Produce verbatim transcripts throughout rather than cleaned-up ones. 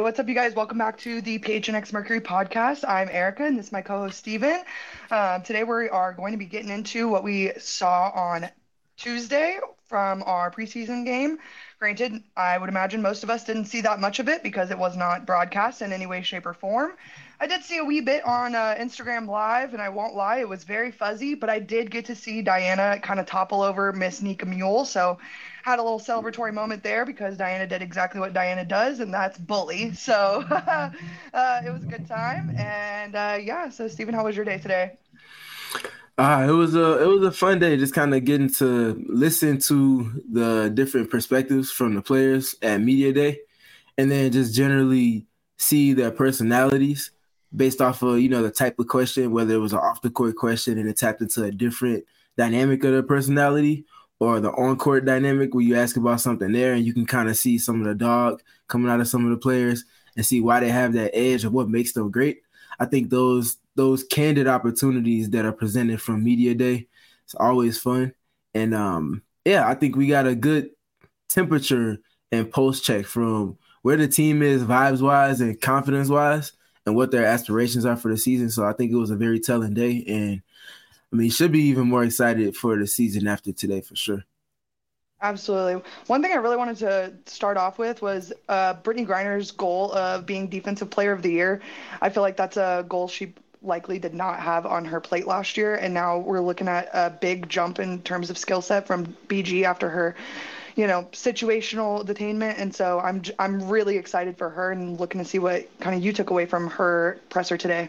what's up, you guys? Welcome back to the P H N X Mercury podcast. I'm Erica, and this is my co-host Steven. Um, today we are going to be getting into what we saw on Tuesday from our preseason game. Granted, I would imagine most of us didn't see that much of it because it was not broadcast in any way, shape, or form. I did see a wee bit on uh, Instagram Live, and I won't lie, it was very fuzzy, but I did get to see Diana kind of topple over Miss Nika Mule, so had a little celebratory moment there because Diana did exactly what Diana does, and that's bully. So uh, it was a good time, and uh, yeah. So Stephen, how was your day today? Uh, it was a it was a fun day, just kind of getting to listen to the different perspectives from the players at media day, and then just generally see their personalities based off of you know the type of question, whether it was an off the court question and it tapped into a different dynamic of their personality, or the on court dynamic where you ask about something there and you can kind of see some of the dog coming out of some of the players and see why they have that edge of what makes them great. I think those those candid opportunities that are presented from media day, it's always fun. And um, yeah, I think we got a good temperature and post check from where the team is vibes wise and confidence wise and what their aspirations are for the season. So I think it was a very telling day. And I mean, should be even more excited for the season after today for sure. Absolutely. One thing I really wanted to start off with was uh, Brittany Griner's goal of being Defensive Player of the Year. I feel like that's a goal she likely did not have on her plate last year, and now we're looking at a big jump in terms of skill set from B G after her, you know, situational detainment. And so I'm j- I'm really excited for her and looking to see what kind of you took away from her presser today.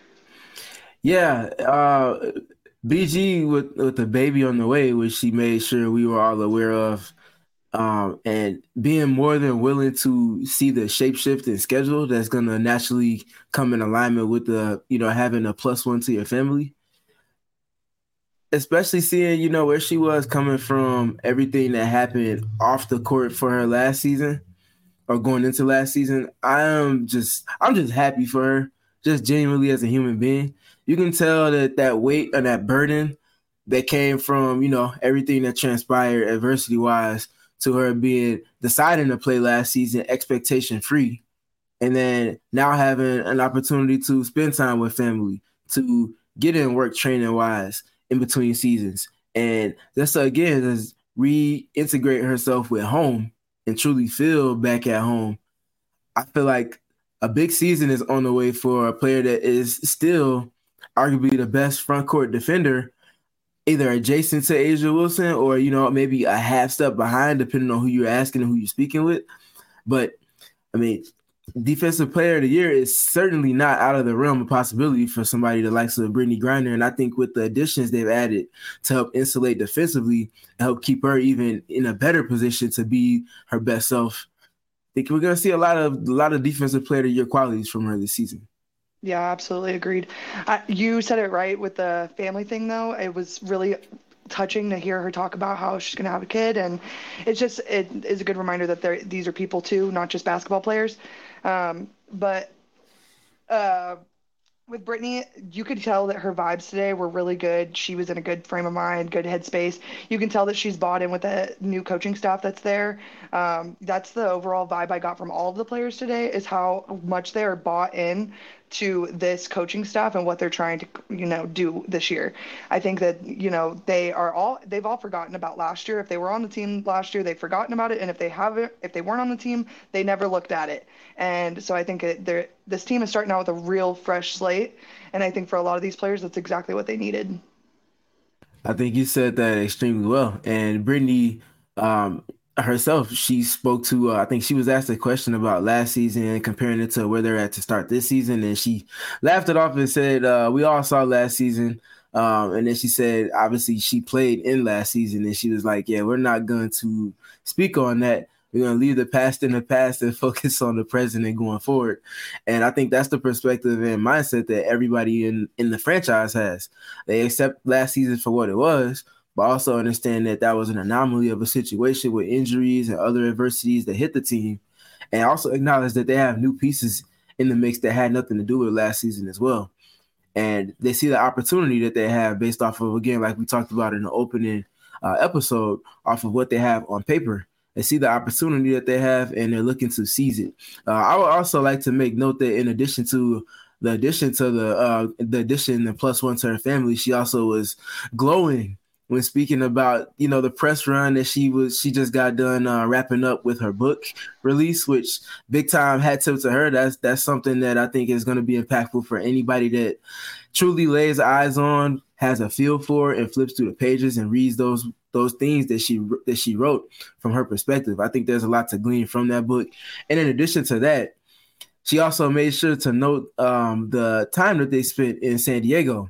Yeah, uh, B G with with the baby on the way, which she made sure we were all aware of, um, and being more than willing to see the shape shift in schedule that's going to naturally come in alignment with the you know having a plus one to your family, especially seeing you know where she was coming from, everything that happened off the court for her last season or going into last season. I am just I'm just happy for her, just genuinely as a human being. You can tell that that weight and that burden that came from you know everything that transpired adversity wise to her being deciding to play last season expectation free, and then now having an opportunity to spend time with family, to get in work training wise in between seasons, and just again just reintegrate herself with home and truly feel back at home. I feel like a big season is on the way for a player that is still arguably the best front court defender, either adjacent to Asia Wilson or, you know, maybe a half step behind, depending on who you're asking and who you're speaking with. But I mean, defensive player of the year is certainly not out of the realm of possibility for somebody that likes of Brittany Griner. And I think with the additions they've added to help insulate defensively and help keep her even in a better position to be her best self, I think we're going to see a lot of a lot of defensive player of the year qualities from her this season. Yeah, absolutely agreed. Uh, you said it right with the family thing, though. It was really touching to hear her talk about how she's going to have a kid, and it's just it is a good reminder that they're these are people too, not just basketball players. Um, but uh, with Brittany, you could tell that her vibes today were really good. She was in a good frame of mind, good headspace. You can tell that she's bought in with the new coaching staff that's there. Um, that's the overall vibe I got from all of the players today, is how much they are bought in to this coaching staff and what they're trying to, you know, do this year. I think that, you know, they are all they've all forgotten about last year. If they were on the team last year, they've forgotten about it, and if they haven't, if they weren't on the team, they never looked at it. And so I think that they're this team is starting out with a real fresh slate, and I think for a lot of these players, that's exactly what they needed. I think you said that extremely well. And Brittany um, herself, she spoke to, uh, I think she was asked a question about last season and comparing it to where they're at to start this season. And she laughed it off and said, uh, we all saw last season. Um, and then she said, obviously, she played in last season. And she was like, yeah, we're not going to speak on that. We're going to leave the past in the past and focus on the present and going forward. And I think that's the perspective and mindset that everybody in, in the franchise has. They accept last season for what it was, but also understand that that was an anomaly of a situation with injuries and other adversities that hit the team, and also acknowledge that they have new pieces in the mix that had nothing to do with last season as well. And they see the opportunity that they have based off of, again, like we talked about in the opening uh, episode, off of what they have on paper. They see the opportunity that they have, and they're looking to seize it. Uh, I would also like to make note that in addition to the addition to the uh, the addition, the plus one to her family, she also was glowing when speaking about, you know, the press run that she was she just got done uh, wrapping up with her book release, which big time hat tip to her. That's that's something that I think is going to be impactful for anybody that truly lays eyes on, has a feel for, and flips through the pages and reads those those things that she that she wrote from her perspective. I think there's a lot to glean from that book. And in addition to that, she also made sure to note um, the time that they spent in San Diego,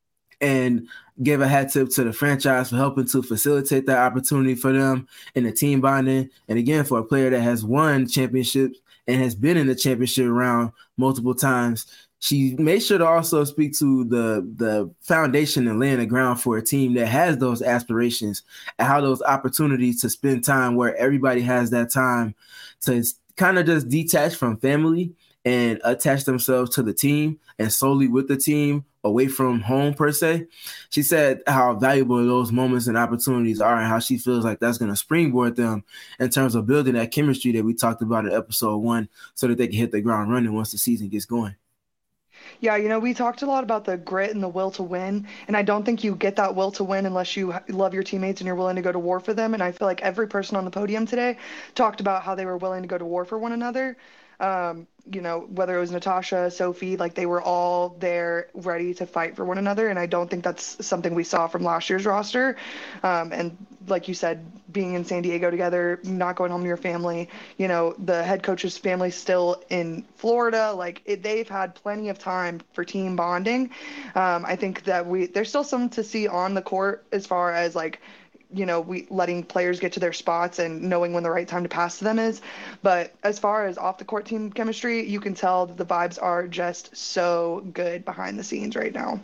and gave a hat tip to the franchise for helping to facilitate that opportunity for them in the team bonding. And again, for a player that has won championships and has been in the championship round multiple times, she made sure to also speak to the the foundation and laying the ground for a team that has those aspirations and how those opportunities to spend time where everybody has that time to kind of just detach from family and attach themselves to the team and solely with the team, away from home per se. She said how valuable those moments and opportunities are and how she feels like that's going to springboard them in terms of building that chemistry that we talked about in episode one so that they can hit the ground running once the season gets going. Yeah, you know, we talked a lot about the grit and the will to win, and I don't think you get that will to win unless you h- love your teammates and you're willing to go to war for them. And I feel like every person on the podium today talked about how they were willing to go to war for one another. Um, you know, whether it was Natasha, Sophie, like they were all there ready to fight for one another. And I don't think that's something we saw from last year's roster. Um, and like you said, being in San Diego together, not going home to your family, you know, the head coach's family still in Florida, like it, they've had plenty of time for team bonding. Um, I think that we, there's still some to see on the court as far as like, you know, we letting players get to their spots and knowing when the right time to pass to them is. But as far as off the court team chemistry, you can tell that the vibes are just so good behind the scenes right now.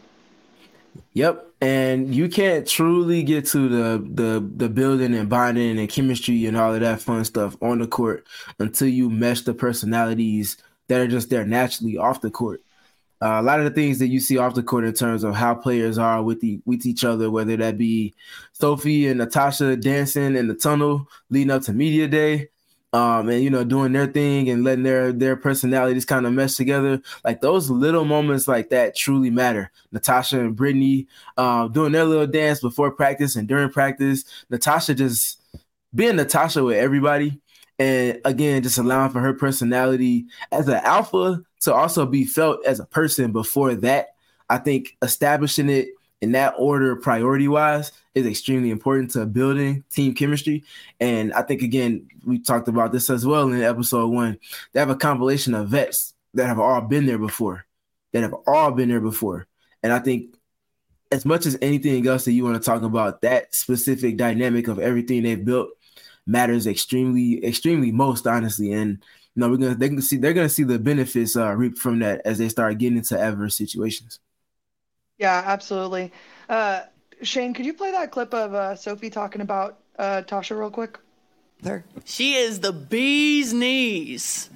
Yep. And you can't truly get to the the the building and bonding and chemistry and all of that fun stuff on the court until you mesh the personalities that are just there naturally off the court. Uh, a lot of the things that you see off the court in terms of how players are with the with each other, whether that be Sophie and Natasha dancing in the tunnel leading up to media day, um, and you know doing their thing and letting their their personalities kind of mesh together. Like those little moments like that truly matter. Natasha and Brittany uh, doing their little dance before practice and during practice. Natasha just being Natasha with everybody. And again, just allowing for her personality as an alpha to also be felt as a person before that. I think establishing it in that order, priority wise, is extremely important to building team chemistry. And I think, again, we talked about this as well in episode one. They have a compilation of vets that have all been there before, that have all been there before. And I think as much as anything else that you want to talk about, that specific dynamic of everything they've built matters extremely, extremely most, honestly. And you know, we're gonna they can see they're gonna see the benefits uh, reap from that as they start getting into adverse situations. Yeah, absolutely. Uh, Shane, could you play that clip of uh, Sophie talking about uh, Tasha real quick? There. She is the bee's knees.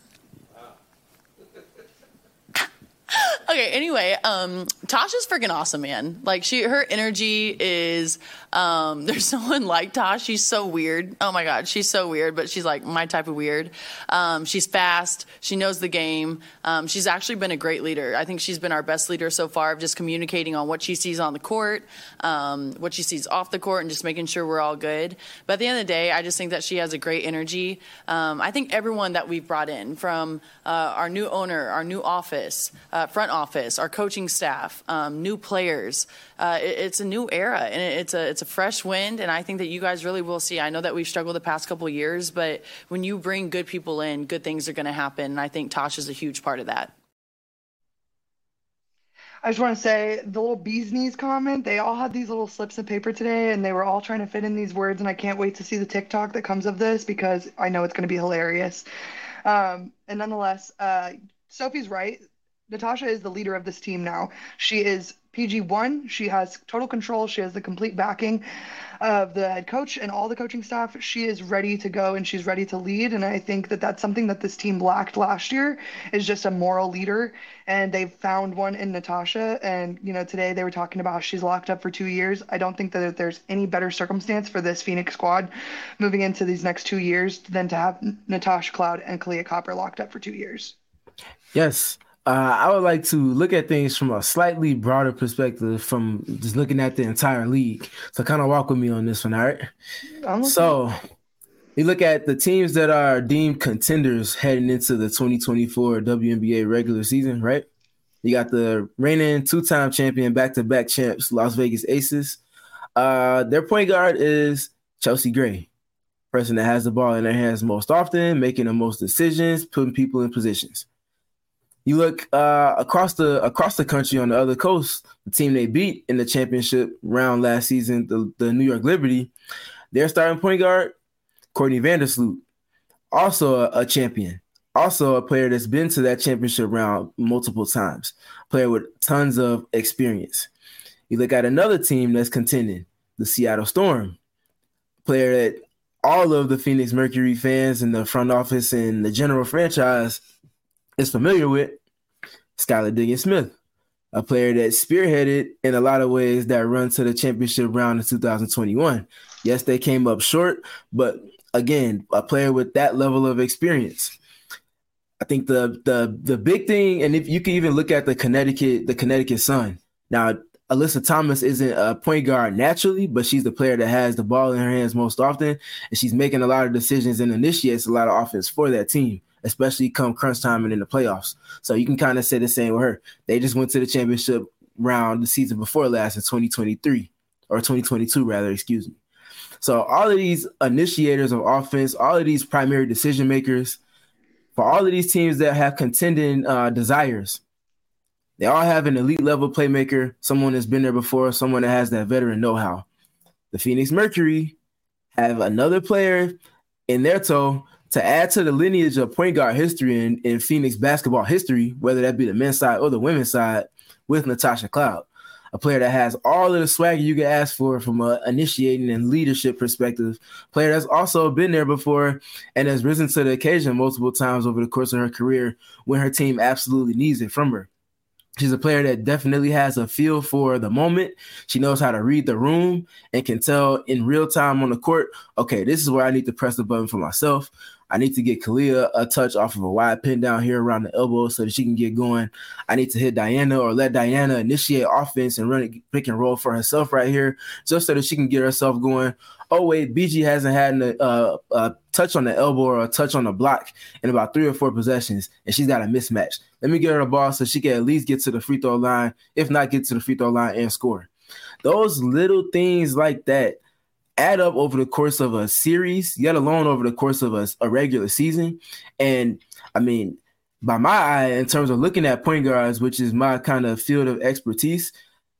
Okay, anyway, um, Tasha's freaking awesome, man. Like, she, her energy is, um, there's no one like Tosh. She's so weird. Oh, my God, she's so weird, but she's, like, my type of weird. Um, she's fast. She knows the game. Um, she's actually been a great leader. I think she's been our best leader so far of just communicating on what she sees on the court, um, what she sees off the court, and just making sure we're all good. But at the end of the day, I just think that she has a great energy. Um, I think everyone that we've brought in, from uh, our new owner, our new office, uh, front office, our coaching staff, um, new players. Uh, it, it's a new era, and it, it's a it's a fresh wind. And I think that you guys really will see. I know that we've struggled the past couple of years, but when you bring good people in, good things are going to happen. And I think Tosh is a huge part of that. I just want to say the little bee's knees comment, they all had these little slips of paper today and they were all trying to fit in these words. And I can't wait to see the TikTok that comes of this because I know it's going to be hilarious. Um, and nonetheless, uh, Sophie's right. Natasha is the leader of this team now. She is P G one. She has total control. She has the complete backing of the head coach and all the coaching staff. She is ready to go and she's ready to lead. And I think that that's something that this team lacked last year, is just a moral leader. And they've found one in Natasha. And, you know, today they were talking about how she's locked up for two years. I don't think that there's any better circumstance for this Phoenix squad moving into these next two years than to have Natasha Cloud and Kahleah Copper locked up for two years. Yes. Uh, I would like to look at things from a slightly broader perspective, from just looking at the entire league. So kind of walk with me on this one, all right? So you look at the teams that are deemed contenders heading into the twenty twenty-four W N B A regular season, right? You got the reigning two-time champion, back-to-back champs, Las Vegas Aces. Uh, their point guard is Chelsea Gray, person that has the ball in their hands most often, making the most decisions, putting people in positions. You look uh, across the across the country on the other coast, the team they beat in the championship round last season, the, the New York Liberty, their starting point guard, Courtney Vandersloot, also a, a champion, also a player that's been to that championship round multiple times, player with tons of experience. You look at another team that's contending, the Seattle Storm, player that all of the Phoenix Mercury fans in the front office and the general franchise is familiar with, Skylar Diggins-Smith, a player that spearheaded in a lot of ways that run to the championship round in two thousand twenty-one. Yes, they came up short, but again, a player with that level of experience. I think the the the big thing, and if you can even look at the Connecticut, the Connecticut Sun. Now, Alyssa Thomas isn't a point guard naturally, but she's the player that has the ball in her hands most often, and she's making a lot of decisions and initiates a lot of offense for that team, especially come crunch time and in the playoffs. So you can kind of say the same with her. They just went to the championship round the season before last in twenty twenty-three, or twenty twenty-two rather, excuse me. So all of these initiators of offense, all of these primary decision makers, for all of these teams that have contending uh, desires, they all have an elite level playmaker, someone that's been there before, someone that has that veteran know-how. The Phoenix Mercury have another player in their toe to add to the lineage of point guard history in, in Phoenix basketball history, whether that be the men's side or the women's side, with Natasha Cloud, a player that has all of the swagger you can ask for from an initiating and leadership perspective, player that's also been there before and has risen to the occasion multiple times over the course of her career when her team absolutely needs it from her. She's a player that definitely has a feel for the moment. She knows how to read the room and can tell in real time on the court, okay, this is where I need to press the button for myself. I need to get Kahleah a touch off of a wide pin down here around the elbow so that she can get going. I need to hit Diana or let Diana initiate offense and run it pick and roll for herself right here just so that she can get herself going. Oh, wait, B G hasn't had a, uh, a touch on the elbow or a touch on the block in about three or four possessions, and she's got a mismatch. Let me get her the ball so she can at least get to the free throw line, if not get to the free throw line and score. Those little things like that add up over the course of a series, yet alone over the course of a, a regular season. And, I mean, by my eye, in terms of looking at point guards, which is my kind of field of expertise,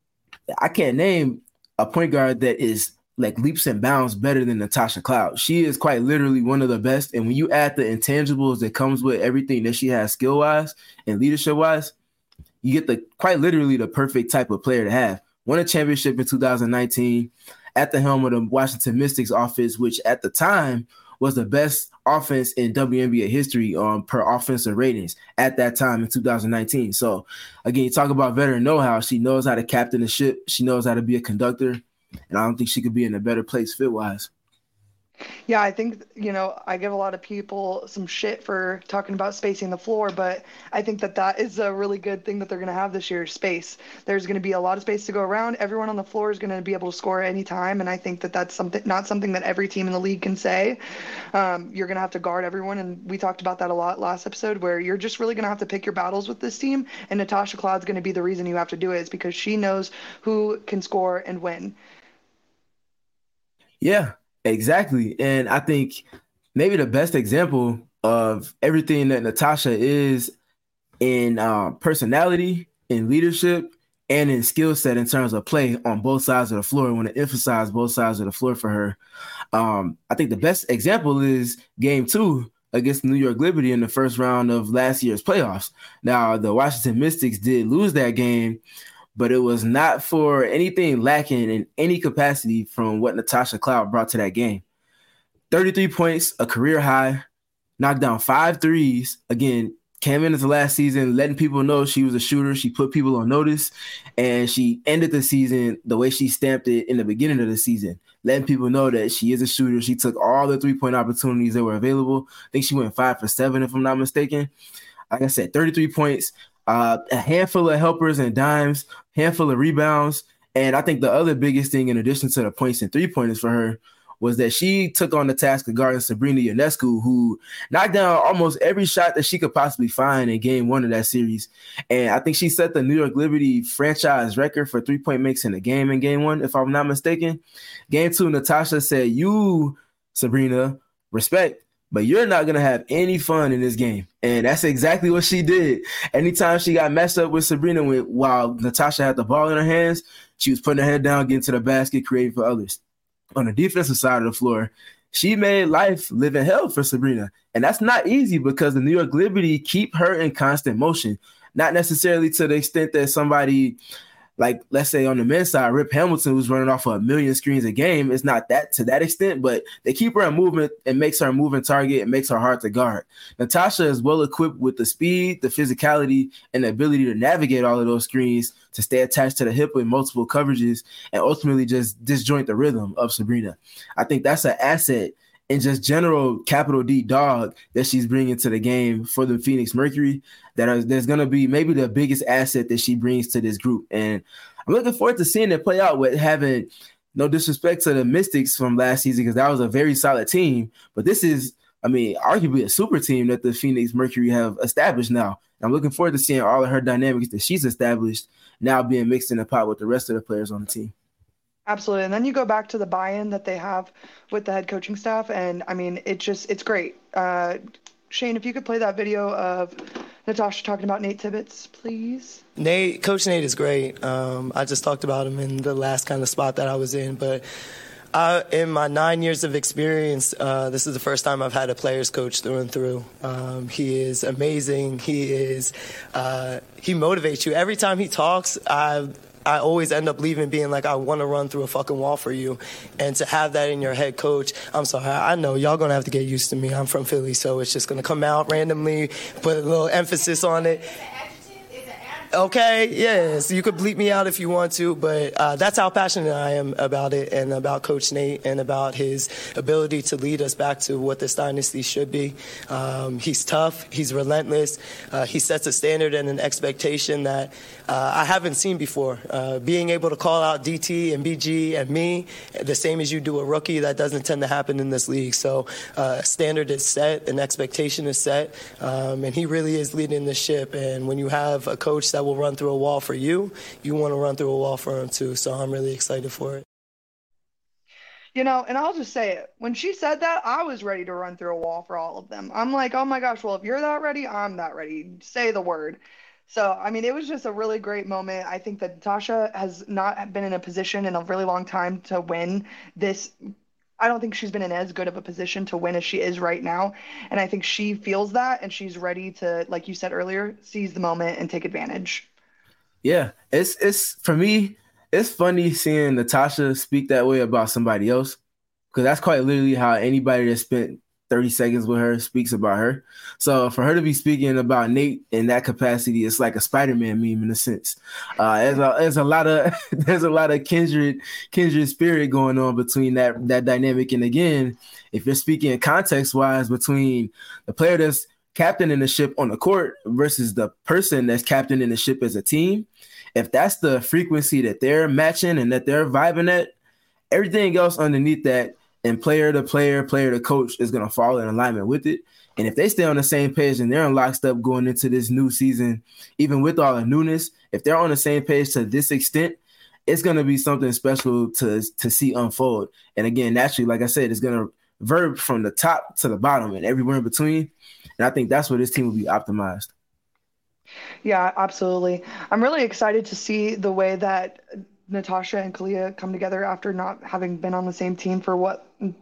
I can't name a point guard that is like leaps and bounds better than Natasha Cloud. She is quite literally one of the best. And when you add the intangibles that comes with everything that she has skill-wise and leadership-wise, you get the quite literally the perfect type of player to have. Won a championship in two thousand nineteen at the helm of the Washington Mystics offense, which at the time was the best offense in W N B A history um, per offensive ratings at that time in two thousand nineteen. So, again, you talk about veteran know-how. She knows how to captain the ship. She knows how to be a conductor. And I don't think she could be in a better place fit-wise. Yeah, I think, you know, I give a lot of people some shit for talking about spacing the floor, but I think that that is a really good thing that they're going to have this year, space. There's going to be a lot of space to go around. Everyone on the floor is going to be able to score at any time, and I think that that's something not something that every team in the league can say. Um, you're going to have to guard everyone, and we talked about that a lot last episode, where you're just really going to have to pick your battles with this team, and Natasha Cloud's going to be the reason you have to do it, is because she knows who can score and win. Yeah, exactly. And I think maybe the best example of everything that Natasha is in uh, personality, in leadership, and in skill set in terms of play on both sides of the floor. I want to emphasize both sides of the floor for her. Um, I think the best example is game two against the New York Liberty in the first round of last year's playoffs. Now, the Washington Mystics did lose that game, but it was not for anything lacking in any capacity from what Natasha Cloud brought to that game. thirty-three points, a career high, knocked down five threes. Again, came into last season letting people know she was a shooter. She put people on notice, and she ended the season the way she stamped it in the beginning of the season, letting people know that she is a shooter. She took all the three-point opportunities that were available. I think she went five for seven, if I'm not mistaken. Like I said, thirty-three points, uh, a handful of helpers and dimes, handful of rebounds. And I think the other biggest thing, in addition to the points and three-pointers for her, was that she took on the task of guarding Sabrina Ionescu, who knocked down almost every shot that she could possibly find in game one of that series. And I think she set the New York Liberty franchise record for three-point makes in a game in game one, if I'm not mistaken. Game two, Natasha said, you, Sabrina, respect, but you're not going to have any fun in this game. And that's exactly what she did. Anytime she got messed up with Sabrina with, while Natasha had the ball in her hands, she was putting her head down, getting to the basket, creating for others. On the defensive side of the floor, she made life live in hell for Sabrina. And that's not easy because the New York Liberty keep her in constant motion, not necessarily to the extent that somebody like, let's say on the men's side, Rip Hamilton, who's running off of a million screens a game, it's not that to that extent, but they keep her in movement and makes her a moving target and makes her hard to guard. Natasha is well equipped with the speed, the physicality, and the ability to navigate all of those screens, to stay attached to the hip with multiple coverages, and ultimately just disjoint the rhythm of Sabrina. I think that's an asset and just general capital D dog that she's bringing to the game for the Phoenix Mercury. That is, there's going to be maybe the biggest asset that she brings to this group. And I'm looking forward to seeing it play out with having no disrespect to the Mystics from last season, because that was a very solid team. But this is, I mean, arguably a super team that the Phoenix Mercury have established now. And I'm looking forward to seeing all of her dynamics that she's established now being mixed in the pot with the rest of the players on the team. Absolutely. And then you go back to the buy-in that they have with the head coaching staff. And I mean, it just, it's great. Uh, Shane, if you could play that video of Natasha talking about Nate Tibbetts, please. Nate, Coach Nate is great. Um, I just talked about him in the last kind of spot that I was in. But I, in my nine years of experience, uh, this is the first time I've had a player's coach through and through. Um, he is amazing. He is, uh, he motivates you. Every time he talks, I I always end up leaving being like, I want to run through a fucking wall for you. And to have that in your head coach, I'm sorry, I know y'all going to have to get used to me. I'm from Philly, so it's just going to come out randomly, put a little emphasis on it. Okay, yes, you could bleep me out if you want to, but uh, that's how passionate I am about it and about Coach Nate and about his ability to lead us back to what this dynasty should be. Um, he's tough. He's relentless. Uh, he sets a standard and an expectation that uh, I haven't seen before. Uh, being able to call out D T and B G and me the same as you do a rookie, that doesn't tend to happen in this league. So uh, a standard is set, an expectation is set, um, and he really is leading the ship. And when you have a coach that that will run through a wall for you, you want to run through a wall for him too. So I'm really excited for it. You know, and I'll just say it. When she said that, I was ready to run through a wall for all of them. I'm like, oh my gosh, well, if you're that ready, I'm that ready. Say the word. So, I mean, it was just a really great moment. I think that Natasha has not been in a position in a really long time to win this. I don't think she's been in as good of a position to win as she is right now. And I think she feels that, and she's ready to, like you said earlier, seize the moment and take advantage. Yeah, it's it's for me, it's funny seeing Natasha speak that way about somebody else, because that's quite literally how anybody that spent thirty seconds with her speaks about her. So for her to be speaking about Nate in that capacity, it's like a Spider-Man meme in a sense. Uh, there's a there's a lot of there's a lot of kindred kindred spirit going on between that that dynamic. And again, if you're speaking context wise between the player that's captaining the ship on the court versus the person that's captaining the ship as a team, if that's the frequency that they're matching and that they're vibing at, everything else underneath that, and player to player, player to coach, is going to fall in alignment with it. And if they stay on the same page and they're in lockstep going into this new season, even with all the newness, if they're on the same page to this extent, it's going to be something special to, to see unfold. And again, naturally, like I said, it's going to verb from the top to the bottom and everywhere in between. And I think that's where this team will be optimized. Yeah, absolutely. I'm really excited to see the way that Natasha and Kalia come together after not having been on the same team for what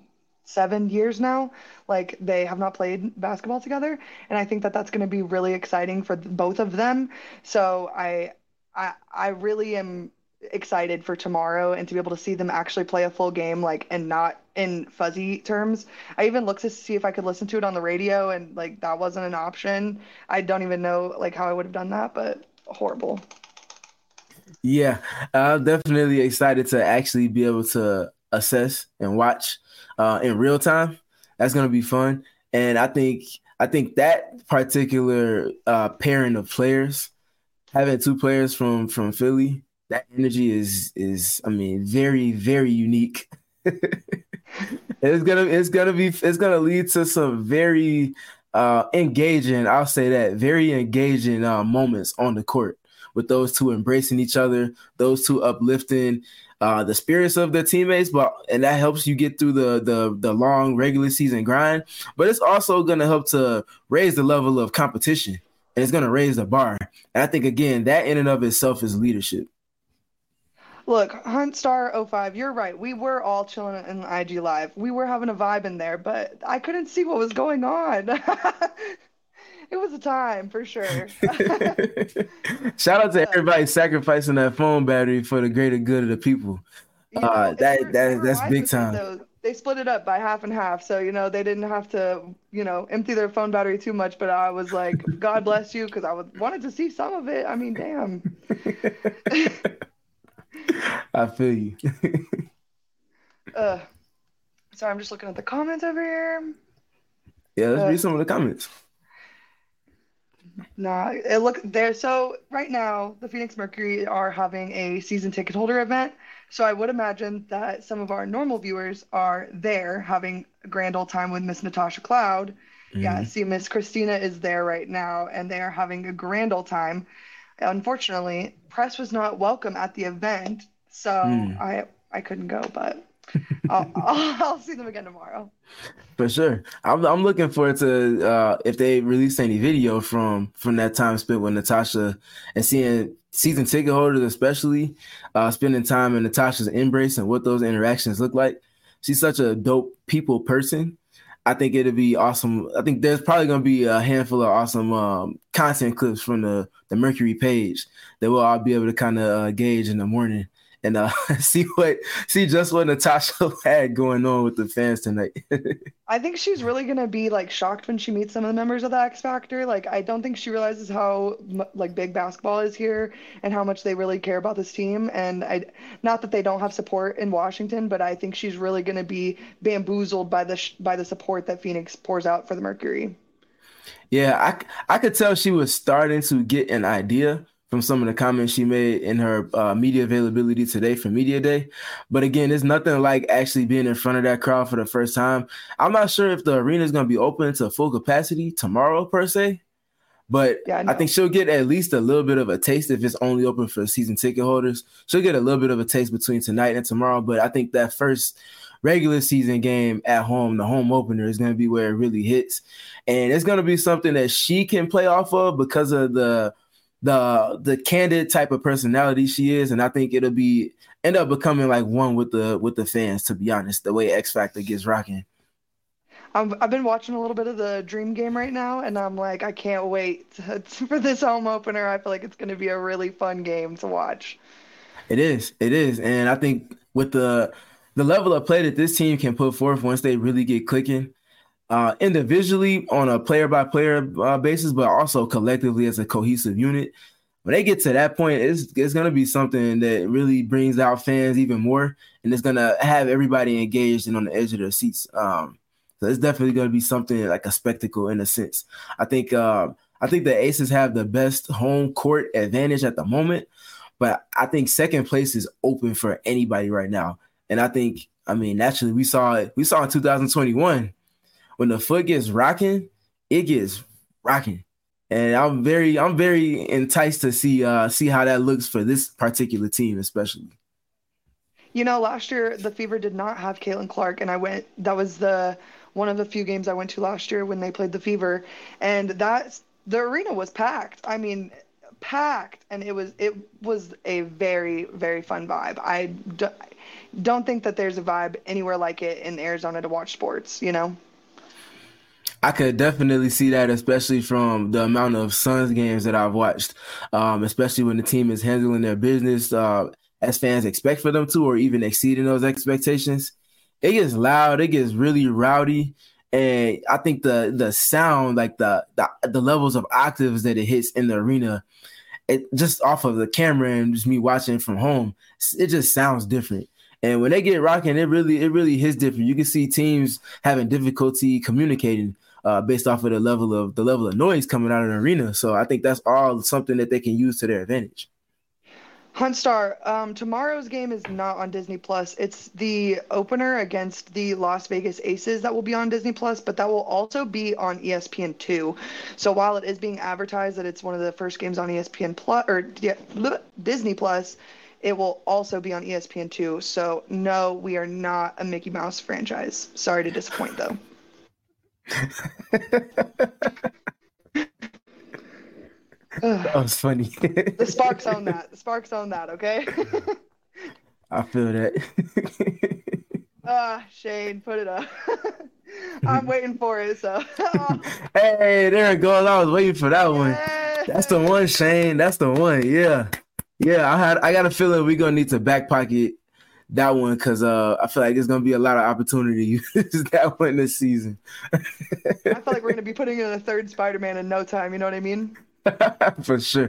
seven years now. Like they have not played basketball together, and I think that that's going to be really exciting for th- both of them. So I, I, I really am excited for tomorrow and to be able to see them actually play a full game, like and not in fuzzy terms. I even looked to see if I could listen to it on the radio, and like that wasn't an option. I don't even know like how I would have done that, but horrible. Yeah, I'm definitely excited to actually be able to assess and watch uh, in real time. That's gonna be fun, and I think I think that particular uh, pairing of players, having two players from from Philly, that energy is is I mean very very unique. it's gonna it's gonna be it's gonna lead to some very uh, engaging. I'll say that very engaging uh, moments on the court, with those two embracing each other, those two uplifting uh, the spirits of their teammates, but and that helps you get through the the the long regular season grind. But it's also going to help to raise the level of competition, and it's going to raise the bar. And I think again that in and of itself is leadership. Look, Huntstar oh five, you're right. We were all chilling in I G Live. We were having a vibe in there, but I couldn't see what was going on. It was a time for sure. Shout out to everybody sacrificing that phone battery for the greater good of the people. You know, Uh, that were, that that's big time. Though. They split it up by half and half, so you know they didn't have to, you know, empty their phone battery too much. But I was like, God bless you, because I would, wanted to see some of it. I mean, damn. I feel you. uh, sorry, I'm just looking at the comments over here. Yeah, let's uh, read some of the comments. Nah, it look there. So right now, the Phoenix Mercury are having a season ticket holder event. So I would imagine that some of our normal viewers are there having a grand old time with Miss Natasha Cloud. Mm-hmm. Yeah, see, Miss Christina is there right now, and they are having a grand old time. Unfortunately, press was not welcome at the event, so mm. I I couldn't go, but I'll, I'll, I'll see them again tomorrow. For sure. I'm I'm looking forward to uh, if they release any video from from that time spent with Natasha, and seeing season ticket holders especially uh, spending time in Natasha's embrace and what those interactions look like. She's such a dope people person. I think it'll be awesome. I think there's probably going to be a handful of awesome um, content clips from the, the Mercury page that we'll all be able to kind of uh, gauge in the morning and uh, see what see just what Natasha had going on with the fans tonight. I think she's really gonna be like shocked when she meets some of the members of the X Factor. Like, I don't think she realizes how like big basketball is here and how much they really care about this team. And I, not that they don't have support in Washington, but I think she's really gonna be bamboozled by the by the support that Phoenix pours out for the Mercury. Yeah, I I could tell she was starting to get an idea from some of the comments she made in her uh, media availability today for Media Day. But again, it's nothing like actually being in front of that crowd for the first time. I'm not sure if the arena is going to be open to full capacity tomorrow per se, but yeah, I, I think she'll get at least a little bit of a taste if it's only open for season ticket holders. She'll get a little bit of a taste between tonight and tomorrow, but I think that first regular season game at home, the home opener, is going to be where it really hits. And it's going to be something that she can play off of because of the the the candid type of personality she is, and I think it'll be end up becoming like one with the with the fans, to be honest, the way X Factor gets rocking. I've, I've been watching a little bit of the Dream Game right now, and I'm like, I can't wait to, for this home opener. I feel like it's going to be a really fun game to watch. It is, it is, and I think with the the level of play that this team can put forth once they really get clicking, Uh, individually on a player-by-player uh, basis, but also collectively as a cohesive unit. When they get to that point, it's, it's going to be something that really brings out fans even more, and it's going to have everybody engaged and on the edge of their seats. Um, so it's definitely going to be something like a spectacle in a sense. I think uh, I think the Aces have the best home court advantage at the moment, but I think second place is open for anybody right now. And I think, I mean, naturally, we saw it. We saw in two thousand twenty-one. When the foot gets rocking, it gets rocking, and I'm very, I'm very enticed to see, uh, see how that looks for this particular team, especially. You know, last year the Fever did not have Caitlin Clark, and I went. That was the one of the few games I went to last year when they played the Fever, and that the arena was packed. I mean, packed, and it was it was a very very fun vibe. I d- don't think that there's a vibe anywhere like it in Arizona to watch sports. You know. I could definitely see that, especially from the amount of Suns games that I've watched, um, especially when the team is handling their business uh, as fans expect for them to, or even exceeding those expectations. It gets loud, it gets really rowdy, and I think the the sound, like the the, the levels of octaves that it hits in the arena, it just off of the camera and just me watching from home, it just sounds different. And when they get rocking, it really it really hits different. You can see teams having difficulty communicating uh, based off of the level of the level of noise coming out of the arena. So I think that's all something that they can use to their advantage. Huntstar, um, tomorrow's game is not on Disney Plus. It's the opener against the Las Vegas Aces that will be on Disney Plus, but that will also be on E S P N two. So while it is being advertised that it's one of the first games on E S P N Plus or yeah, Disney Plus, it will also be on E S P N two. So no, we are not a Mickey Mouse franchise. Sorry to disappoint, though. That was funny. The Sparks own that. The Sparks own that, okay? I feel that. Ah, uh, Shane, put it up. I'm waiting for it, so. Hey, there it goes. I was waiting for that one. Yeah. That's the one, Shane. That's the one. Yeah. Yeah, I had I got a feeling we're gonna need to back pocket that one because uh, I feel like there's gonna be a lot of opportunity to use that one this season. I feel like we're gonna be putting in a third Spider-Man in no time, you know what I mean? For sure.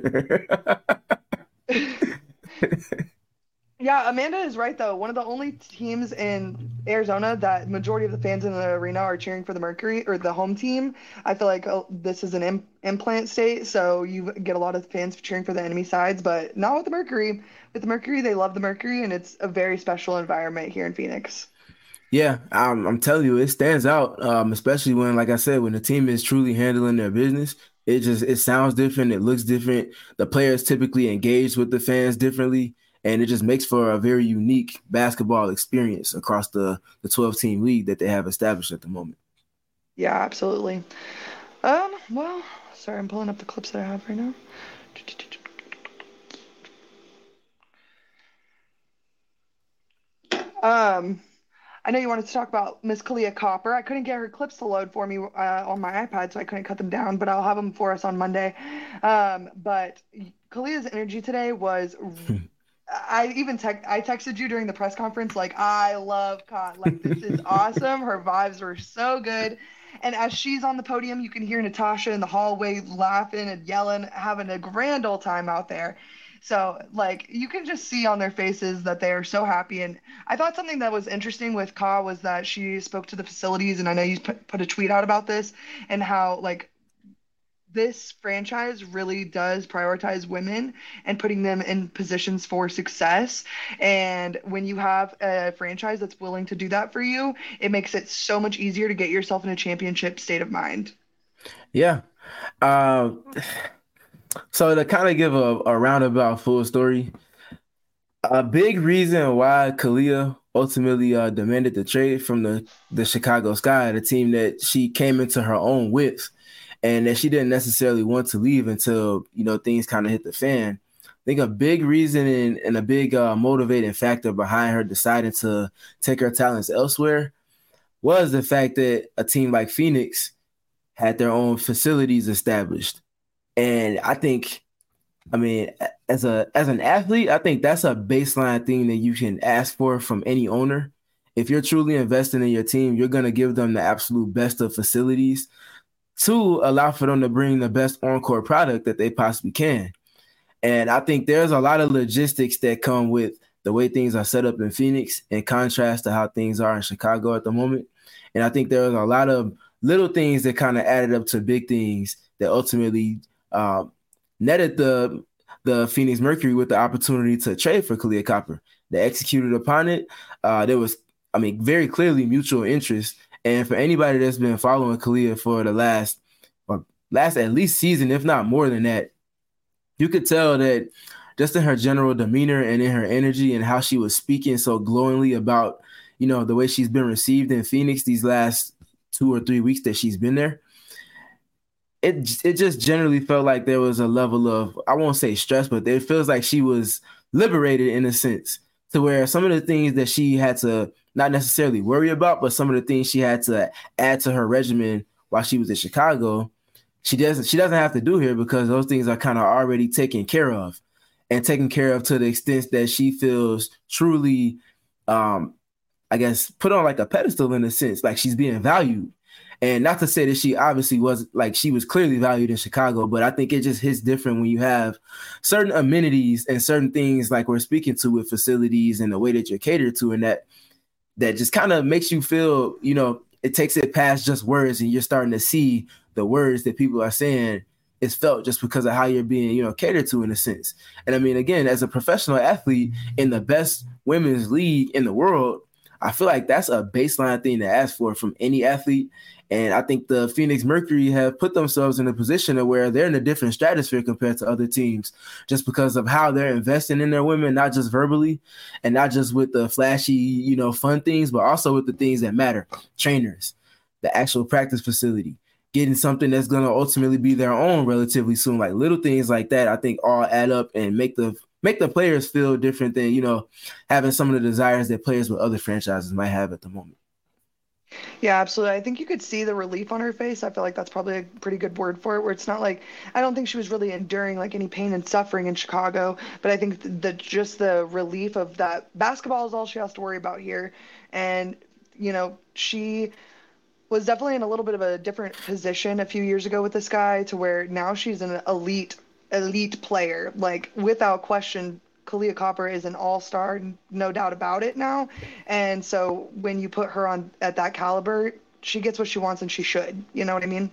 Yeah, Amanda is right though. One of the only teams in Arizona that majority of the fans in the arena are cheering for the Mercury or the home team. I feel like oh, this is an Im- implant state, so you get a lot of fans cheering for the enemy sides, but not with the Mercury. With the Mercury, they love the Mercury, and it's a very special environment here in Phoenix. Yeah, I'm, I'm telling you, it stands out, um, especially when, like I said, when the team is truly handling their business. It just it sounds different. It looks different. The players typically engage with the fans differently. And it just makes for a very unique basketball experience across the the twelve-team league that they have established at the moment. Yeah, absolutely. Um, well, sorry, I'm pulling up the clips that I have right now. Um, I know you wanted to talk about Miss Kahleah Copper. I couldn't get her clips to load for me uh, on my iPad, so I couldn't cut them down, but I'll have them for us on Monday. Um, but Kahleah's energy today was... I even te- I texted you during the press conference, like, I love Ka. Like, this is awesome. Her vibes were so good. And as she's on the podium, you can hear Natasha in the hallway laughing and yelling, having a grand old time out there. So, like, you can just see on their faces that they are so happy. And I thought something that was interesting with Ka was that she spoke to the facilities, and I know you put, put a tweet out about this, and how, like, this franchise really does prioritize women and putting them in positions for success. And when you have a franchise that's willing to do that for you, it makes it so much easier to get yourself in a championship state of mind. Yeah. Uh, so to kind of give a, a roundabout full story, a big reason why Kahleah ultimately uh, demanded the trade from the, the Chicago Sky, the team that she came into her own with, and that she didn't necessarily want to leave until, you know, things kind of hit the fan. I think a big reason and, and a big uh, motivating factor behind her deciding to take her talents elsewhere was the fact that a team like Phoenix had their own facilities established. And I think, I mean, as a as an athlete, I think that's a baseline thing that you can ask for from any owner. If you're truly investing in your team, you're going to give them the absolute best of facilities to allow for them to bring the best on-court product that they possibly can. And I think there's a lot of logistics that come with the way things are set up in Phoenix in contrast to how things are in Chicago at the moment. And I think there's a lot of little things that kind of added up to big things that ultimately uh, netted the the Phoenix Mercury with the opportunity to trade for Kahleah Copper. They executed upon it. Uh, there was, I mean, very clearly mutual interest. And for anybody that's been following Kahleah for the last, or last at least season, if not more than that, you could tell that just in her general demeanor and in her energy and how she was speaking so glowingly about, you know, the way she's been received in Phoenix these last two or three weeks that she's been there. it it just generally felt like there was a level of, I won't say stress, but it feels like she was liberated in a sense, to where some of the things that she had to not necessarily worry about, but some of the things she had to add to her regimen while she was in Chicago, she doesn't she doesn't have to do here, because those things are kind of already taken care of, and taken care of to the extent that she feels truly, um, I guess, put on like a pedestal in a sense, like she's being valued. And not to say that she obviously was, like, she was clearly valued in Chicago, but I think it just hits different when you have certain amenities and certain things like we're speaking to with facilities and the way that you're catered to, and that that just kind of makes you feel, you know, it takes it past just words, and you're starting to see the words that people are saying is felt just because of how you're being, you know, catered to in a sense. And I mean, again, as a professional athlete in the best women's league in the world, I feel like that's a baseline thing to ask for from any athlete. And I think the Phoenix Mercury have put themselves in a position of where they're in a different stratosphere compared to other teams, just because of how they're investing in their women, not just verbally and not just with the flashy, you know, fun things, but also with the things that matter. Trainers, the actual practice facility, getting something that's going to ultimately be their own relatively soon. Like little things like that, I think all add up and make the make the players feel different than, you know, having some of the desires that players with other franchises might have at the moment. Yeah, absolutely. I think you could see the relief on her face. I feel like that's probably a pretty good word for it, where it's not like, I don't think she was really enduring like any pain and suffering in Chicago, but I think that just the relief of that basketball is all she has to worry about here. And, you know, she was definitely in a little bit of a different position a few years ago with this guy, to where now she's an elite, elite player. Like, without question, Kahleah Copper is an all-star, no doubt about it now. And so when you put her on at that caliber, she gets what she wants, and she should. You know what I mean?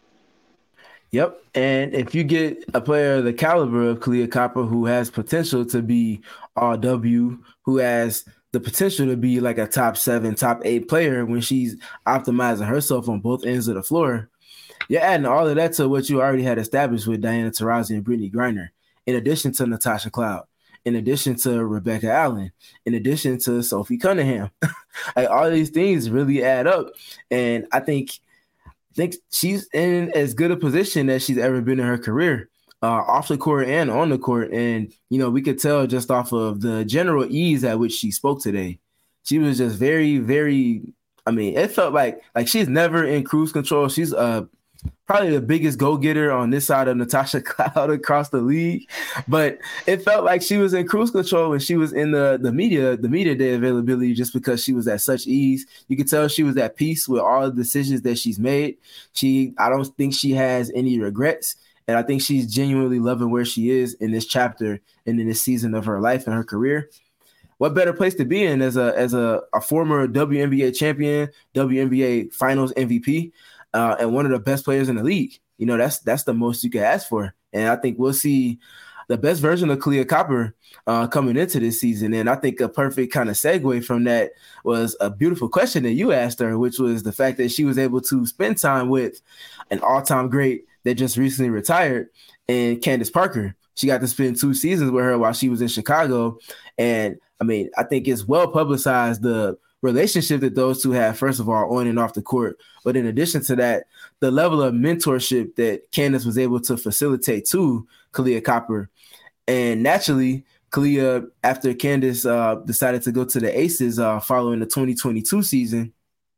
Yep. And if you get a player of the caliber of Kahleah Copper, who has potential to be all W, who has the potential to be like a top seven, top eight player when she's optimizing herself on both ends of the floor, you're adding all of that to what you already had established with Diana Taurasi and Brittney Griner, in addition to Natasha Cloud, in addition to Rebecca Allen, in addition to Sophie Cunningham. Like, all these things really add up. And I think I think she's in as good a position as she's ever been in her career, uh, off the court and on the court. And, you know, we could tell just off of the general ease at which she spoke today. She was just very, very, I mean, it felt like like she's never in cruise control. She's uh probably the biggest go-getter on this side of Natasha Cloud across the league. But it felt like she was in cruise control when she was in the, the media, the media day availability, just because she was at such ease. You could tell she was at peace with all the decisions that she's made. She, I don't think she has any regrets. And I think she's genuinely loving where she is in this chapter and in this season of her life and her career. What better place to be in as a as a, a former W N B A champion, W N B A Finals M V P, uh, and one of the best players in the league? You know, that's that's the most you can ask for. And I think we'll see the best version of Kahleah Copper uh, coming into this season. And I think a perfect kind of segue from that was a beautiful question that you asked her, which was the fact that she was able to spend time with an all-time great that just recently retired, and Candace Parker. She got to spend two seasons with her while she was in Chicago. And I mean, I think it's well publicized, the relationship that those two have, first of all, on and off the court. But in addition to that, the level of mentorship that Candace was able to facilitate to Kahleah Copper. And naturally, Kahleah, after Candace uh, decided to go to the Aces uh, following the twenty twenty-two season,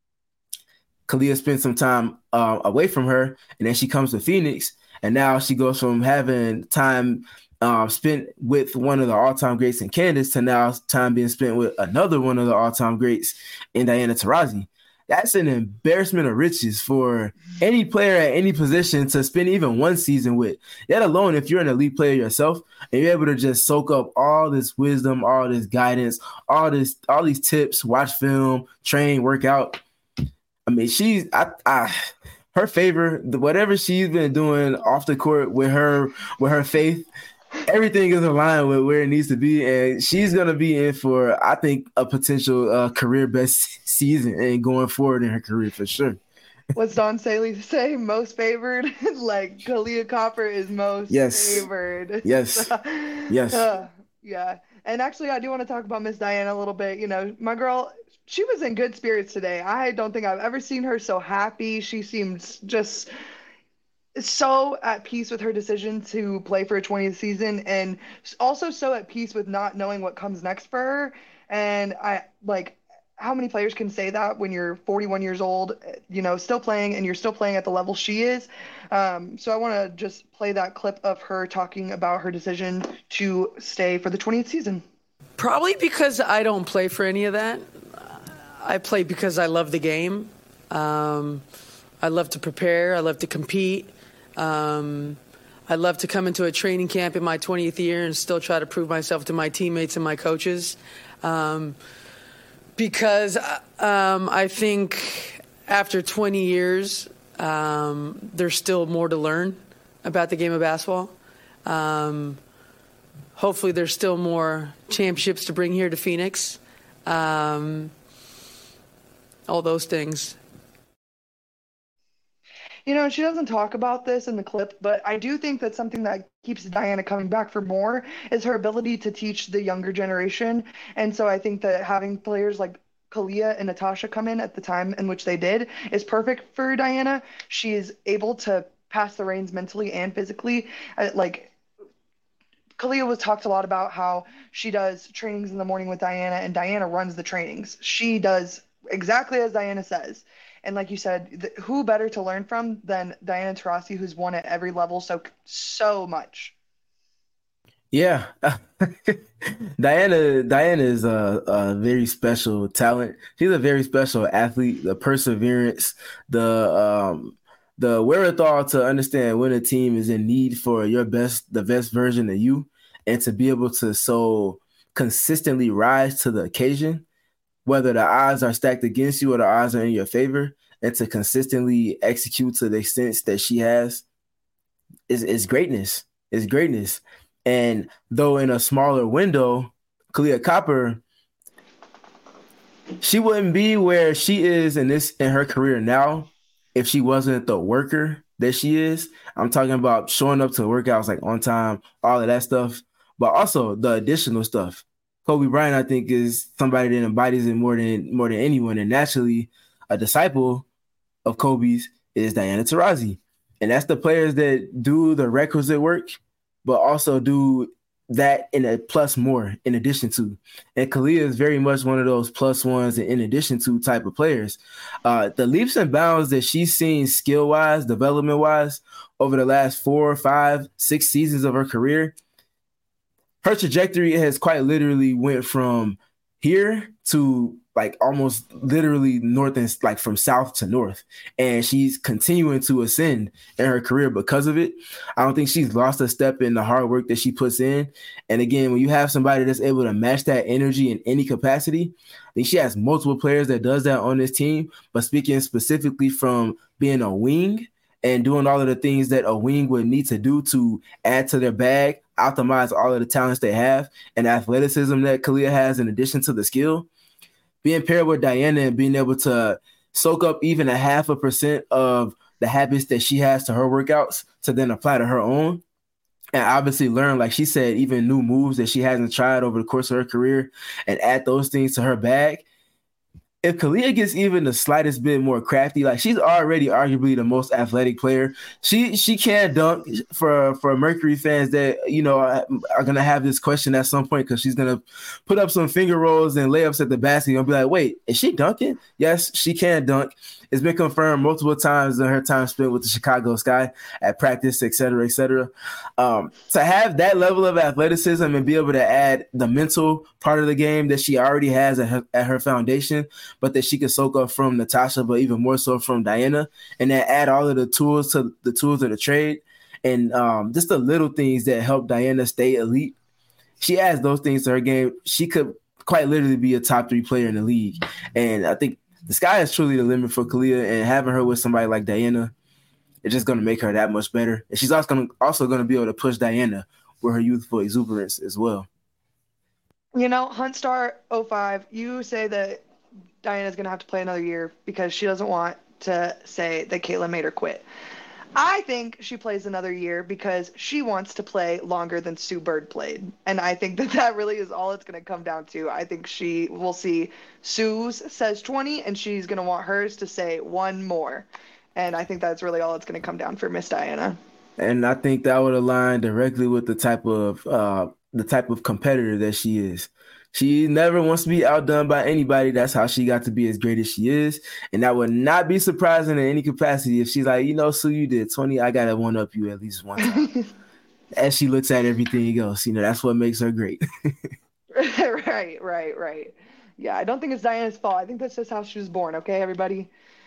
Kahleah spent some time uh, away from her, and then she comes to Phoenix. And now she goes from having time um, spent with one of the all-time greats in Candace to now time being spent with another one of the all-time greats in Diana Taurasi. That's an embarrassment of riches for any player at any position to spend even one season with, let alone if you're an elite player yourself and you're able to just soak up all this wisdom, all this guidance, all this, all these tips, watch film, train, work out. I mean, she's I, I her favor, whatever she's been doing off the court with her with her faith, everything is aligned with where it needs to be, and she's gonna be in for, I think, a potential uh, career best season and going forward in her career for sure. What's Don Saley say? Most favored? Like, Kahleah Copper is most yes. favored. Yes. Yes. Uh, yeah. And actually, I do want to talk about Miss Diana a little bit. You know, my girl, she was in good spirits today. I don't think I've ever seen her so happy. She seemed just so at peace with her decision to play for a twentieth season, and also so at peace with not knowing what comes next for her. And I like how many players can say that when you're forty-one years old, you know, still playing and you're still playing at the level she is. Um, so I want to just play that clip of her talking about her decision to stay for the twentieth season. Probably because I don't play for any of that. I play because I love the game. Um, I love to prepare. I love to compete. Um, I love to come into a training camp in my twentieth year and still try to prove myself to my teammates and my coaches. Um, because um, I think after twenty years, um, there's still more to learn about the game of basketball. Um, hopefully there's still more championships to bring here to Phoenix. Um, all those things. You know, she doesn't talk about this in the clip, but I do think that something that keeps Diana coming back for more is her ability to teach the younger generation. And so I think that having players like Kalia and Natasha come in at the time in which they did is perfect for Diana. She is able to pass the reins mentally and physically. Uh, like Kalia was talked a lot about how she does trainings in the morning with Diana, and Diana runs the trainings. She does exactly as Diana says. And like you said, th- who better to learn from than Diana Taurasi, who's won at every level so so much. Yeah, Diana. Diana is a, a very special talent. She's a very special athlete. The perseverance, the um, the wherewithal to understand when a team is in need for your best, the best version of you, and to be able to so consistently rise to the occasion, whether the odds are stacked against you or the odds are in your favor, and to consistently execute to the extent that she has is is greatness. Is greatness. And though in a smaller window, Kahleah Copper, she wouldn't be where she is in this in her career now if she wasn't the worker that she is. I'm talking about showing up to workouts like on time, all of that stuff, but also the additional stuff. Kobe Bryant, I think, is somebody that embodies it more than more than anyone, and naturally, a disciple of Kobe's is Diana Taurasi, and that's the players that do the requisite work, but also do that in a plus more in addition to. And Kahleah is very much one of those plus ones and in addition to type of players. Uh, the leaps and bounds that she's seen skill-wise, development-wise, over the last four, five, six seasons of her career, her trajectory has quite literally went from here to like almost literally north and like from south to north. And she's continuing to ascend in her career because of it. I don't think she's lost a step in the hard work that she puts in. And again, when you have somebody that's able to match that energy in any capacity, I think she has multiple players that does that on this team. But speaking specifically from being a wing and doing all of the things that a wing would need to do to add to their bag, optimize all of the talents they have and athleticism that Kahleah has in addition to the skill, being paired with Diana and being able to soak up even a half a percent of the habits that she has to her workouts to then apply to her own. And obviously learn, like she said, even new moves that she hasn't tried over the course of her career and add those things to her bag. If Kahleah gets even the slightest bit more crafty, like she's already arguably the most athletic player. She she can dunk. For for Mercury fans that, you know, are, are gonna have this question at some point because she's gonna put up some finger rolls and layups at the basket and be like, wait, is she dunking? Yes, she can dunk. It's been confirmed multiple times in her time spent with the Chicago Sky at practice, et cetera, et cetera. Um, to have that level of athleticism and be able to add the mental part of the game that she already has at her, at her foundation, but that she can soak up from Natasha, but even more so from Diana, and then add all of the tools to the tools of the trade and um, just the little things that help Diana stay elite. She adds those things to her game. She could quite literally be a top three player in the league. And I think the sky is truly the limit for Kahleah, and having her with somebody like Diana is just going to make her that much better. And she's also going to also going to be able to push Diana with her youthful exuberance as well. You know, Huntstar oh five, you say that Diana's going to have to play another year because she doesn't want to say that Caitlin made her quit. I think she plays another year because she wants to play longer than Sue Bird played. And I think that that really is all it's going to come down to. I think she will see Sue's says twenty, and she's going to want hers to say one more. And I think that's really all it's going to come down for Miss Diana. And I think that would align directly with the type of uh, the type of competitor that she is. She never wants to be outdone by anybody. That's how she got to be as great as she is. And that would not be surprising in any capacity if she's like, you know, Sue, you did twenty. I got to one up you at least one time. As she looks at everything else, you know, that's what makes her great. Right, right, right. Yeah, I don't think it's Diana's fault. I think that's just how she was born. Okay, everybody.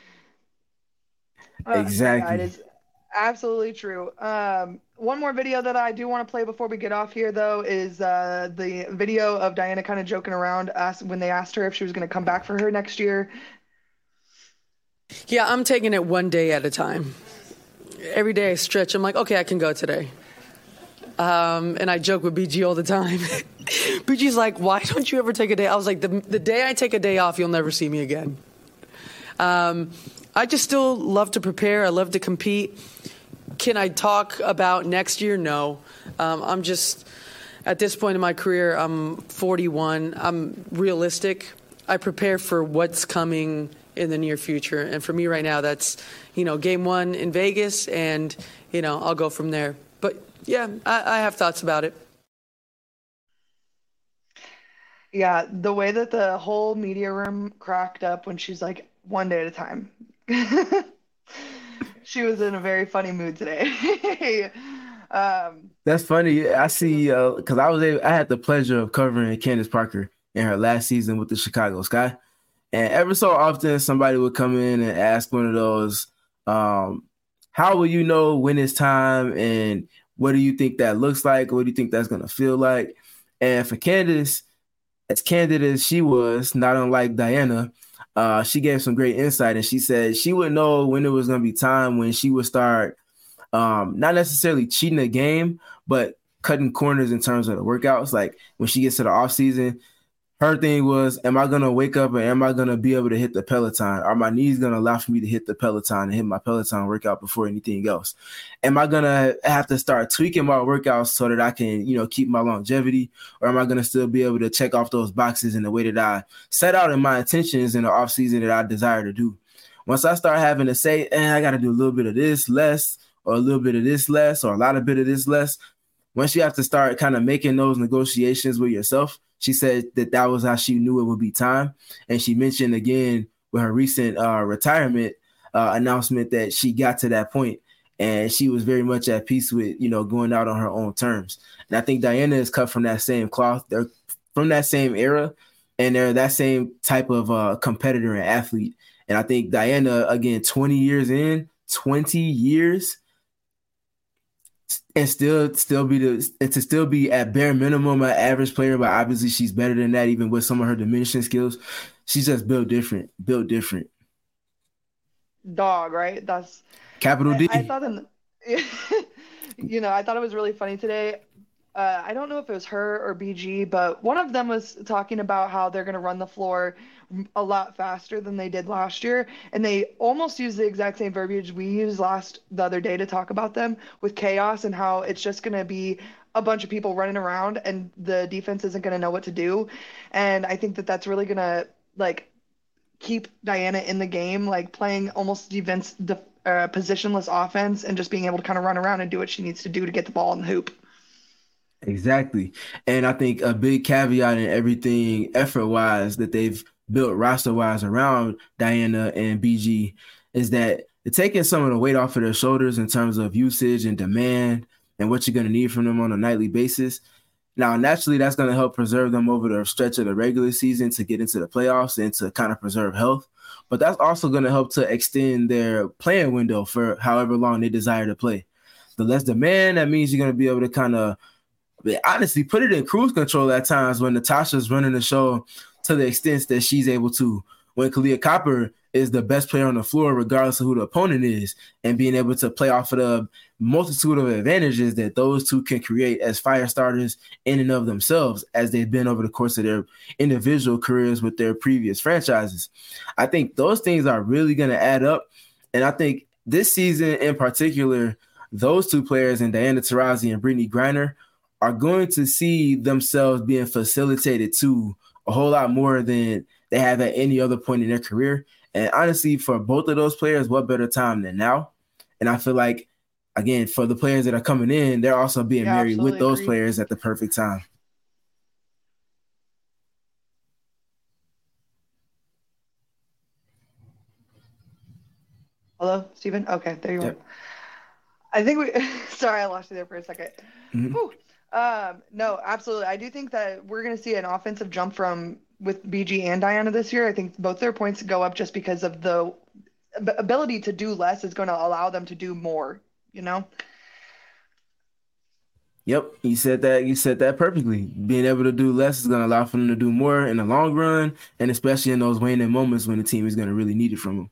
Uh, Exactly. yeah, it is absolutely true. Um, one more video that I do want to play before we get off here, though, is uh, the video of Diana kind of joking around asked, when they asked her if she was going to come back for her next year. Yeah, I'm taking it one day at a time. Every day I stretch. I'm like, okay, I can go today. Um, and I joke with B G all the time. B G's like, why don't you ever take a day? I was like, the, the day I take a day off, you'll never see me again. Um, I just still love to prepare. I love to compete. Can I talk about next year? No. Um, I'm just, at this point in my career, I'm forty-one. I'm realistic. I prepare for what's coming in the near future. And for me right now, that's, you know, game one in Vegas, and, you know, I'll go from there. But, yeah, I, I have thoughts about it. Yeah, the way that the whole media room cracked up when she's like, one day at a time. She was in a very funny mood today. um, That's funny. I see, because uh, I was able, I had the pleasure of covering Candace Parker in her last season with the Chicago Sky. And ever so often, somebody would come in and ask one of those, um, how will you know when it's time, and what do you think that looks like? What do you think that's going to feel like? And for Candace, as candid as she was, not unlike Diana, uh, she gave some great insight. And she said she would know when it was going to be time when she would start um, not necessarily cheating the game, but cutting corners in terms of the workouts. Like when she gets to the off season, her thing was, am I going to wake up and am I going to be able to hit the Peloton? Are my knees going to allow for me to hit the Peloton and hit my Peloton workout before anything else? Am I going to have to start tweaking my workouts so that I can, you know, keep my longevity? Or am I going to still be able to check off those boxes in the way that I set out in my intentions in the off season that I desire to do? Once I start having to say, eh, I got to do a little bit of this less, or a little bit of this less, or a lot of bit of this less, once you have to start kind of making those negotiations with yourself, she said that that was how she knew it would be time. And she mentioned again with her recent uh, retirement uh, announcement that she got to that point and she was very much at peace with, you know, going out on her own terms. And I think Diana is cut from that same cloth. They're from that same era, and they're that same type of uh, competitor and athlete. And I think Diana, again, twenty years in, twenty years, and still still be the and to still be at bare minimum an average player, but obviously she's better than that, even with some of her diminishing skills. She's just built different, built different. Dog, right? That's capital D. I, I thought, in, you know, I thought it was really funny today. Uh, I don't know if it was her or B G, but one of them was talking about how they're going to run the floor a lot faster than they did last year. And they almost used the exact same verbiage we used last the other day to talk about them with chaos and how it's just going to be a bunch of people running around and the defense isn't going to know what to do. And I think that that's really going to like keep Diana in the game, like playing almost defense, the uh, positionless offense and just being able to kind of run around and do what she needs to do to get the ball in the hoop. Exactly. And I think a big caveat in everything effort-wise that they've built roster-wise around Diana and B G is that they're taking some of the weight off of their shoulders in terms of usage and demand and what you're going to need from them on a nightly basis. Now, naturally, that's going to help preserve them over the stretch of the regular season to get into the playoffs and to kind of preserve health. But that's also going to help to extend their playing window for however long they desire to play. The less demand, that means you're going to be able to kind of honestly put it in cruise control at times when Natasha's running the show to the extent that she's able to. When Kahleah Copper is the best player on the floor, regardless of who the opponent is, and being able to play off of the multitude of advantages that those two can create as fire starters in and of themselves, as they've been over the course of their individual careers with their previous franchises. I think those things are really going to add up. And I think this season in particular, those two players, and Diana Taurasi and Brittney Griner, are going to see themselves being facilitated to a whole lot more than they have at any other point in their career. And honestly, for both of those players, what better time than now? And I feel like, again, for the players that are coming in, they're also being Yeah, married with those agree. players at the perfect time. Hello, Steven? Okay, there you Yep. are. I think we – sorry, I lost you there for a second. Mm-hmm. Whew. Um, no, absolutely. I do think that we're going to see an offensive jump from with B G and Diana this year. I think both their points go up just because of the ability to do less is going to allow them to do more, you know? Yep, you said that. You said that perfectly. Being able to do less is going to allow for them to do more in the long run, and especially in those waning moments when the team is going to really need it from them.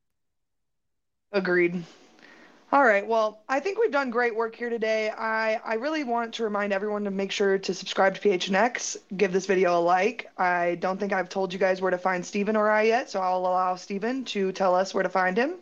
Agreed. All right. Well, I think we've done great work here today. I, I really want to remind everyone to make sure to subscribe to P H N X, give this video a like. I don't think I've told you guys where to find Steven or I yet, so I'll allow Steven to tell us where to find him.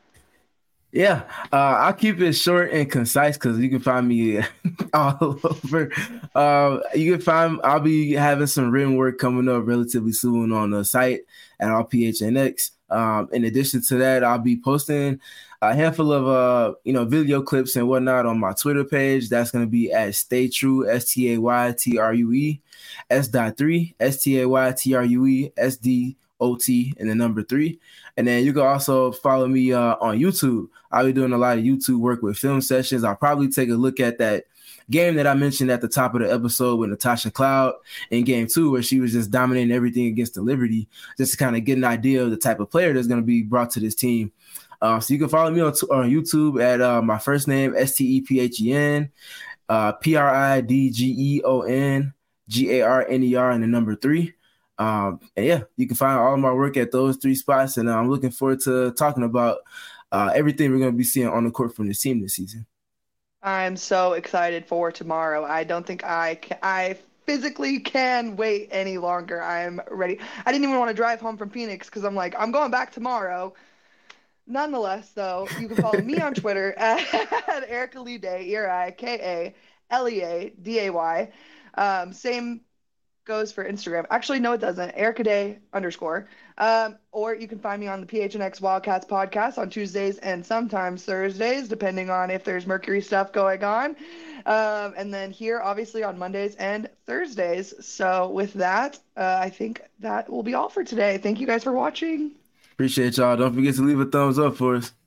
Yeah, uh, I'll keep it short and concise because you can find me all over. Uh, you can find I'll be having some written work coming up relatively soon on the site at all P H N X. Um, in addition to that, I'll be posting a handful of uh, you know, video clips and whatnot on my Twitter page. That's going to be at Stay True, S T A Y T R U E, S dot three, S T A Y T R U E, S D O T, and the number three. And then you can also follow me uh, on YouTube. I'll be doing a lot of YouTube work with film sessions. I'll probably take a look at that game that I mentioned at the top of the episode with Natasha Cloud in game two, where she was just dominating everything against the Liberty, just to kind of get an idea of the type of player that's going to be brought to this team. Uh, so you can follow me on, t- on YouTube at uh, my first name, S T E P H E N, uh, P R I D G E O N, G A R N E R, and the number three. Um, and yeah, you can find all of my work at those three spots. And uh, I'm looking forward to talking about uh, everything we're going to be seeing on the court from this team this season. I'm so excited for tomorrow. I don't think I can, I physically can wait any longer. I'm ready. I didn't even want to drive home from Phoenix because I'm like, I'm going back tomorrow. Nonetheless, though, you can follow me on Twitter at, at Erica Lee Day, E R I K A L E A D A Y. Um, same goes for Instagram. Actually, no, it doesn't. Erica Day underscore. Um, or you can find me on the P H N X Wildcats podcast on Tuesdays and sometimes Thursdays, depending on if there's Mercury stuff going on. Um, and then here, obviously, on Mondays and Thursdays. So with that, uh, I think that will be all for today. Thank you guys for watching. Appreciate y'all. Don't forget to leave a thumbs up for us.